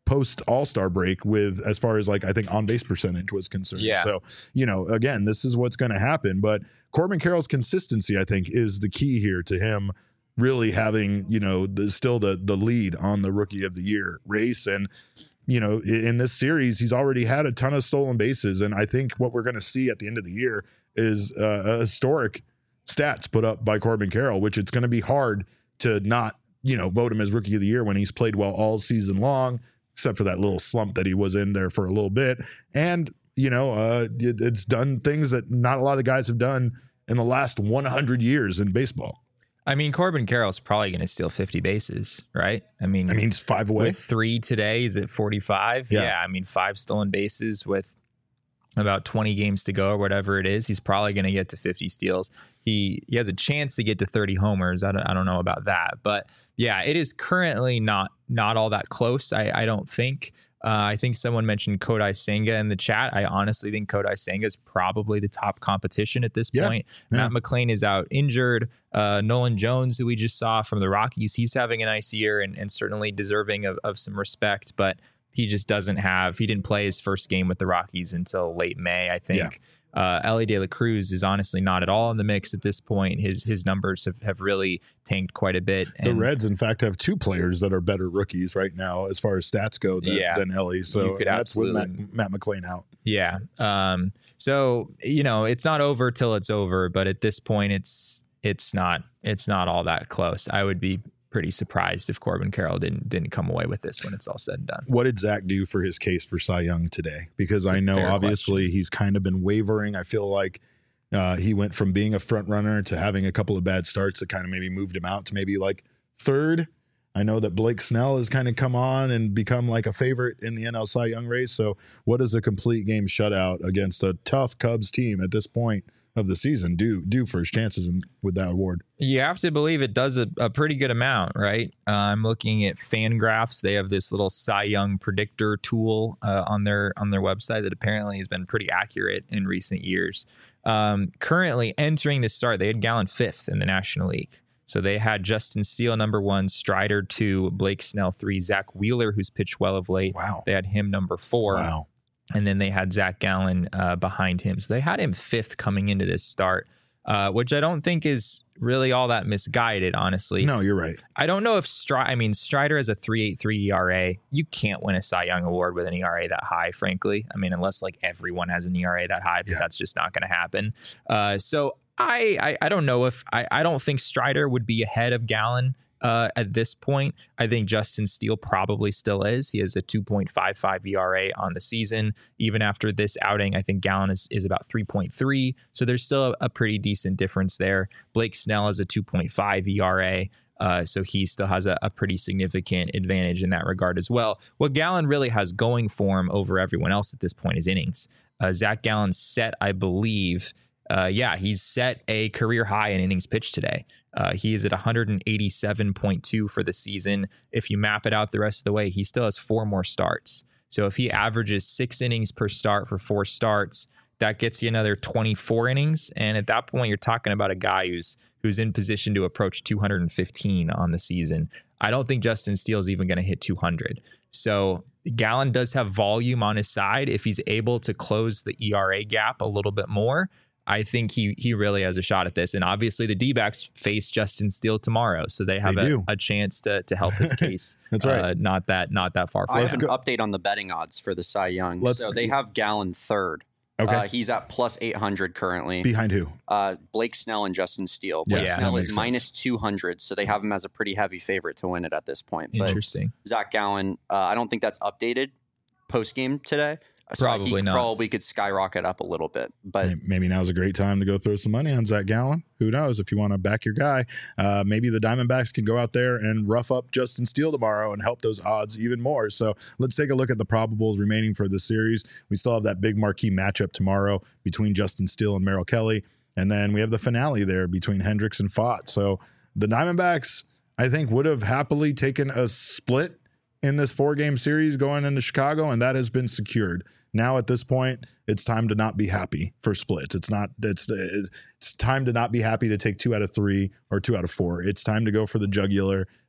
post All-Star break with as far as like I think on base percentage was concerned. Yeah. So, you know, again, this is what's going to happen. But Corbin Carroll's consistency, I think, is the key here to him really having, you know, the, still the the lead on the Rookie of the Year race. And, you know, in, in this series, he's already had a ton of stolen bases. And I think what we're going to see at the end of the year is uh, a historic stats put up by Corbin Carroll, which it's going to be hard to not, you know, vote him as Rookie of the Year when he's played well all season long, except for that little slump that he was in there for a little bit. And, you know, uh, it, it's done things that not a lot of guys have done in the last one hundred years in baseball. I mean, Corbin Carroll's probably going to steal fifty bases, right? I mean, I mean, he's five away. With three today, is it forty-five? Yeah. yeah. I mean, five stolen bases with about twenty games to go or whatever it is. He's probably going to get to fifty steals. He he has a chance to get to thirty homers. I don't, I don't know about that. But yeah, it is currently not not all that close, I, I don't think. Uh, I think someone mentioned Kodai Senga in the chat. I honestly think Kodai Senga is probably the top competition at this Yeah, point. yeah. Matt McClain is out injured. Uh, Nolan Jones, who we just saw from the Rockies, he's having a nice year and, and certainly deserving of, of some respect, but he just doesn't have, he didn't play his first game with the Rockies until late May, I think. Yeah. Uh, Ellie De La Cruz is honestly not at all in the mix at this point. His his numbers have, have really tanked quite a bit. The And Reds, in fact, have two players that are better rookies right now as far as stats go than, Yeah. than Ellie. So You could that's with absolutely- Matt, Matt McClain out. Yeah. Um, so, you know, it's not over till it's over, but at this point it's it's not it's not all that close. I would be pretty surprised if Corbin Carroll didn't didn't come away with this when it's all said and done. What did Zach do for his case for Cy Young today? Because It's a I know fair obviously he's kind of been wavering. I feel like uh, he went from being a front runner to having a couple of bad starts that kind of maybe moved him out to maybe like third. I know that Blake Snell has kind of come on and become like a favorite in the N L Cy Young race. So what does a complete game shutout against a tough Cubs team at this point of the season do do for his chances in, with that award? You have to believe it does a, a pretty good amount, right? Uh, I'm looking at FanGraphs. They have this little Cy Young predictor tool uh, on their on their website that apparently has been pretty accurate in recent years. Um, currently entering the start, they had Gallen fifth in the National League. So they had Justin Steele number one, Strider two, Blake Snell three, Zach Wheeler, who's pitched well of late. Wow. They had him number four. Wow. And then they had Zach Gallen uh, behind him. So they had him fifth coming into this start, uh, which I don't think is really all that misguided, honestly. No, you're right. I don't know if Strider, I mean, Strider has a three point eight three E R A. You can't win a Cy Young award with an E R A that high, frankly. I mean, unless like everyone has an E R A that high, but Yeah. that's just not going to happen. Uh, so I, I I don't know if, I, I don't think Strider would be ahead of Gallen uh, at this point. I think Justin Steele probably still is. He has a two point five five E R A on the season. Even after this outing, I think Gallen is, is about three point three. So there's still a, a pretty decent difference there. Blake Snell has a two point five E R A. Uh, so he still has a, a pretty significant advantage in that regard as well. What Gallen really has going for him over everyone else at this point is innings. Uh, Zach Gallen set, I believe, uh, yeah, he's set a career high in innings pitched today. Uh, he is at one eighty-seven point two for the season. If you map it out the rest of the way, he still has four more starts. So if he averages six innings per start for four starts, that gets you another twenty-four innings. And at that point, you're talking about a guy who's who's in position to approach two hundred fifteen on the season. I don't think Justin Steele is even going to hit two hundred. So Gallen does have volume on his side. If he's able to close the E R A gap a little bit more, I think he he really has a shot at this. And obviously the D-backs face Justin Steele tomorrow, so they have They a, do. a chance to to help his case. That's right. Uh, not that not that far I from have him. an update on the betting odds for the Cy Young. Let's- so they have Gallen third. Okay. Uh, he's at plus eight hundred currently. Behind who? Uh, Blake Snell and Justin Steele. Blake Yeah, Snell that is makes minus two hundred, so they have him as a pretty heavy favorite to win it at this point. But Interesting. Zach Gallen, uh, I don't think that's updated post game today. So Probably he not. probably could skyrocket up a little bit. But May- Maybe now's a great time to go throw some money on Zach Gallen. Who knows? If you want to back your guy, uh, maybe the Diamondbacks can go out there and rough up Justin Steele tomorrow and help those odds even more. So let's take a look at the probables remaining for the series. We still have that big marquee matchup tomorrow between Justin Steele and Merrill Kelly. And then we have the finale there between Hendricks and Fott. So the Diamondbacks, I think, would have happily taken a split in this four-game series going into Chicago, and that has been secured. Now at this point, it's time to not be happy for splits. It's not. It's it's time to not be happy to take two out of three or two out of four. It's time to go for the jugular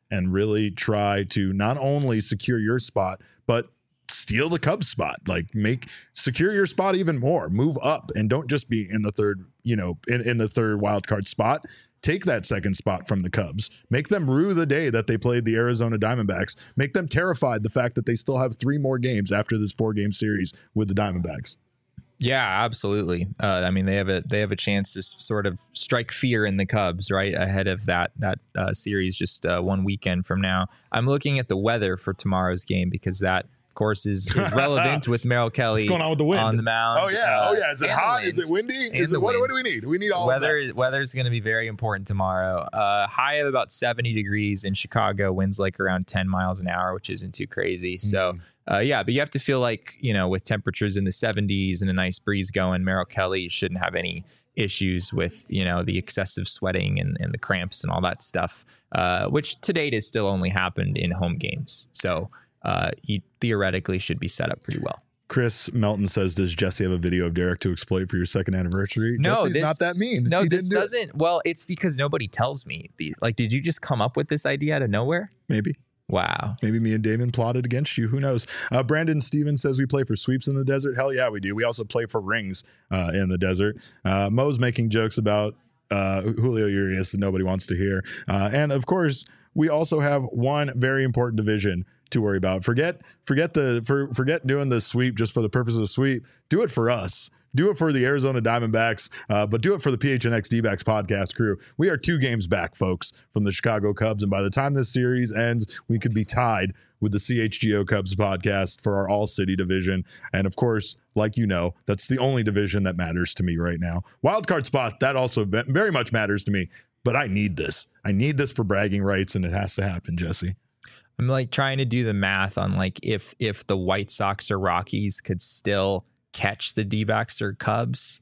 and really try to not only secure your spot, but steal the Cubs spot. Like make secure your spot even more. Move up and don't just be in the third, you know, in, in the third wild card spot. Take that second spot from the Cubs. Make them rue the day that they played the Arizona Diamondbacks. Make them terrified the fact that they still have three more games after this four game series with the Diamondbacks. Yeah, absolutely. Uh, I mean, they have a they have a chance to s- sort of strike fear in the Cubs right ahead of that that uh, series just uh, one weekend from now. I'm looking at the weather for tomorrow's game because that, of course, is, is relevant with Merrill Kelly. What's going on with the wind on the mound? Oh yeah, uh, oh yeah. Is it hot? Is it windy? Is it what? What do we need? We need all weather. Of that. Weather is going to be very important tomorrow. Uh, high of about seventy degrees in Chicago. Winds like around ten miles an hour, which isn't too crazy. So. Mm. Uh, yeah, but you have to feel like, you know, with temperatures in the seventies and a nice breeze going, Merrill Kelly shouldn't have any issues with, you know, the excessive sweating and, and the cramps and all that stuff, uh, which to date has still only happened in home games. So uh, he theoretically should be set up pretty well. Chris Melton says, does Jesse have a video of Derek to exploit for your second anniversary? No, Jesse's this, not that mean. No, he this do doesn't. It. Well, it's because nobody tells me. Like, did you just come up with this idea out of nowhere? Maybe. Wow. Maybe me and Damon plotted against you. Who knows? Uh, Brandon Stevens says we play for sweeps in the desert. Hell yeah, we do. We also play for rings uh, in the desert. Uh, Mo's making jokes about uh, Julio Urias that nobody wants to hear. Uh, and of course, we also have one very important division to worry about. Forget, forget the, for, forget doing the sweep just for the purpose of the sweep. Do it for us. Do it for the Arizona Diamondbacks, uh, but do it for the P H N X D-backs podcast crew. We are two games back, folks, from the Chicago Cubs, and by the time this series ends, we could be tied with the C H G O Cubs podcast for our all-city division. And of course, like you know, that's the only division that matters to me right now. Wildcard spot, that also very much matters to me, but I need this. I need this for bragging rights, and it has to happen, Jesse. I'm like trying to do the math on like if if the White Sox or Rockies could still catch the D-backs or Cubs.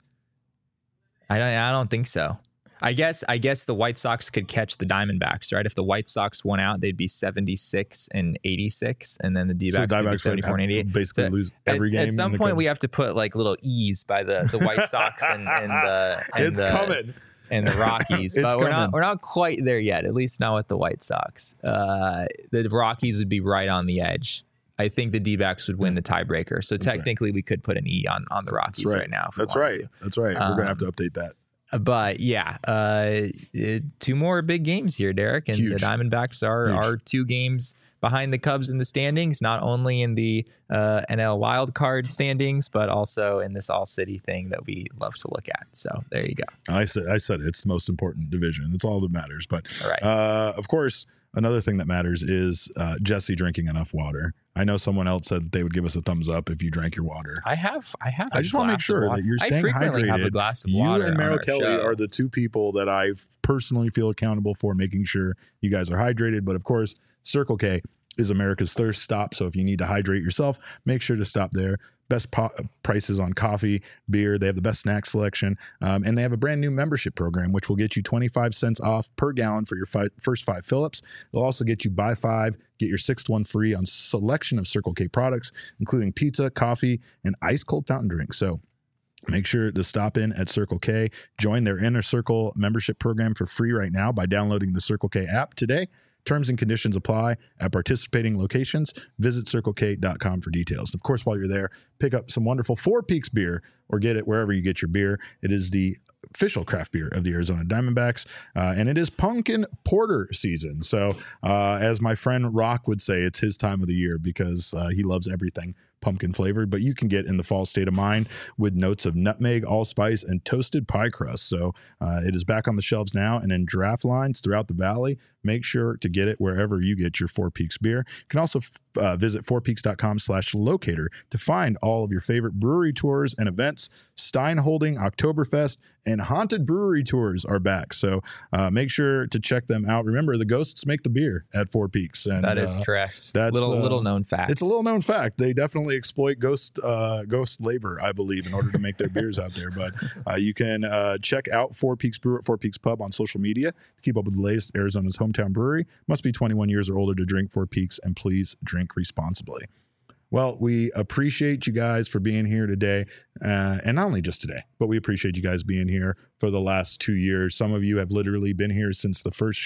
I don't, I don't think so. I guess I guess the White Sox could catch the Diamondbacks, right? If the White Sox won out, they'd be seventy-six and eighty-six, and then the D-backs so would be seventy-four and eighty-eight. Basically so lose every at, game. At some point, we have to put like little E's by the, the White Sox and, and the and it's the, coming. and the Rockies, but we're not we're not quite there yet. At least not with the White Sox. Uh, the Rockies would be right on the edge. I think the D-backs would win the tiebreaker. So That's technically, right. we could put an E on, on the Rockies right. right now. That's right. To. That's right. We're um, going to have to update that. But yeah, uh, two more big games here, Derek. And Huge. The Diamondbacks are, are two games behind the Cubs in the standings, not only in the uh, N L wild card standings, but also in this all-city thing that we love to look at. So there you go. I said, I said it. It's the most important division. That's all that matters. But all right. uh, of course, another thing that matters is uh, Jesse drinking enough water. I know someone else said that they would give us a thumbs up if you drank your water. I have. I have. I just want to make sure that you're staying I frequently hydrated. Have a glass of you water and Merrill Kelly show. are the two people that I personally feel accountable for making sure you guys are hydrated. But of course, Circle K is America's thirst stop. So if you need to hydrate yourself, make sure to stop there. Best po- prices on coffee, beer. They have the best snack selection. Um, and they have a brand new membership program, which will get you twenty-five cents off per gallon for your fi- first five fill-ups. It'll also get you buy five, get your sixth one free on selection of Circle K products, including pizza, coffee, and ice cold fountain drinks. So make sure to stop in at Circle K. Join their Inner Circle membership program for free right now by downloading the Circle K app today. Terms and conditions apply at participating locations. Visit circle k dot com for details. Of course, while you're there, pick up some wonderful Four Peaks beer or get it wherever you get your beer. It is the official craft beer of the Arizona Diamondbacks, uh, and it is pumpkin porter season. So uh, as my friend Rock would say, it's his time of the year because uh, he loves everything pumpkin flavored, but you can get in the fall state of mind with notes of nutmeg, allspice, and toasted pie crust. So uh, it is back on the shelves now and in draft lines throughout the valley. Make sure to get it wherever you get your Four Peaks beer. You can also uh, visit four peaks dot com slash locator to find all of your favorite brewery tours and events. Stein Holding, Oktoberfest, and Haunted Brewery tours are back. So uh, make sure to check them out. Remember, the ghosts make the beer at Four Peaks. And, that is uh, correct. That's little uh, little known fact. It's a little known fact. They definitely exploit ghost uh, ghost labor, I believe, in order to make their beers out there. But uh, you can uh, check out Four Peaks Brew at Four Peaks Pub on social media to keep up with the latest Arizona's hometown brewery. Must be twenty-one years or older to drink Four Peaks, and please drink responsibly. Well, we appreciate you guys for being here today. Uh, and not only just today, but we appreciate you guys being here for the last two years. Some of you have literally been here since the first show.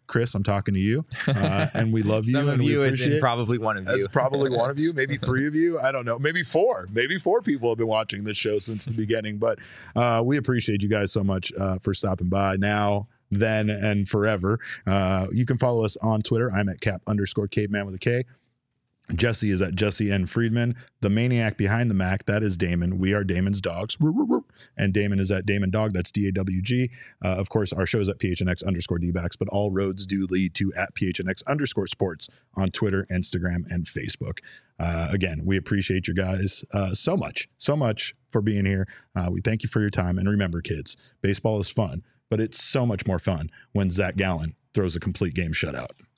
Chris, I'm talking to you, uh, and we love you. Some and of we you is appreciate in probably one of you. That's probably one of you, maybe three of you. I don't know. Maybe four. Maybe four people have been watching this show since the beginning. But uh, we appreciate you guys so much uh, for stopping by now, then, and forever. Uh, you can follow us on Twitter. I'm at cap underscore caveman with a K. Jesse is at Jesse N. Friedman. The maniac behind the Mac, that is Damon. We are Damon's dogs. And Damon is at Damon Dog. That's D A W G. Uh, of course, our show is at P H N X underscore D-backs, but all roads do lead to at P H N X underscore sports on Twitter, Instagram, and Facebook. Uh, again, we appreciate you guys uh, so much, so much for being here. Uh, we thank you for your time. And remember, kids, baseball is fun, but it's so much more fun when Zach Gallen throws a complete game shutout.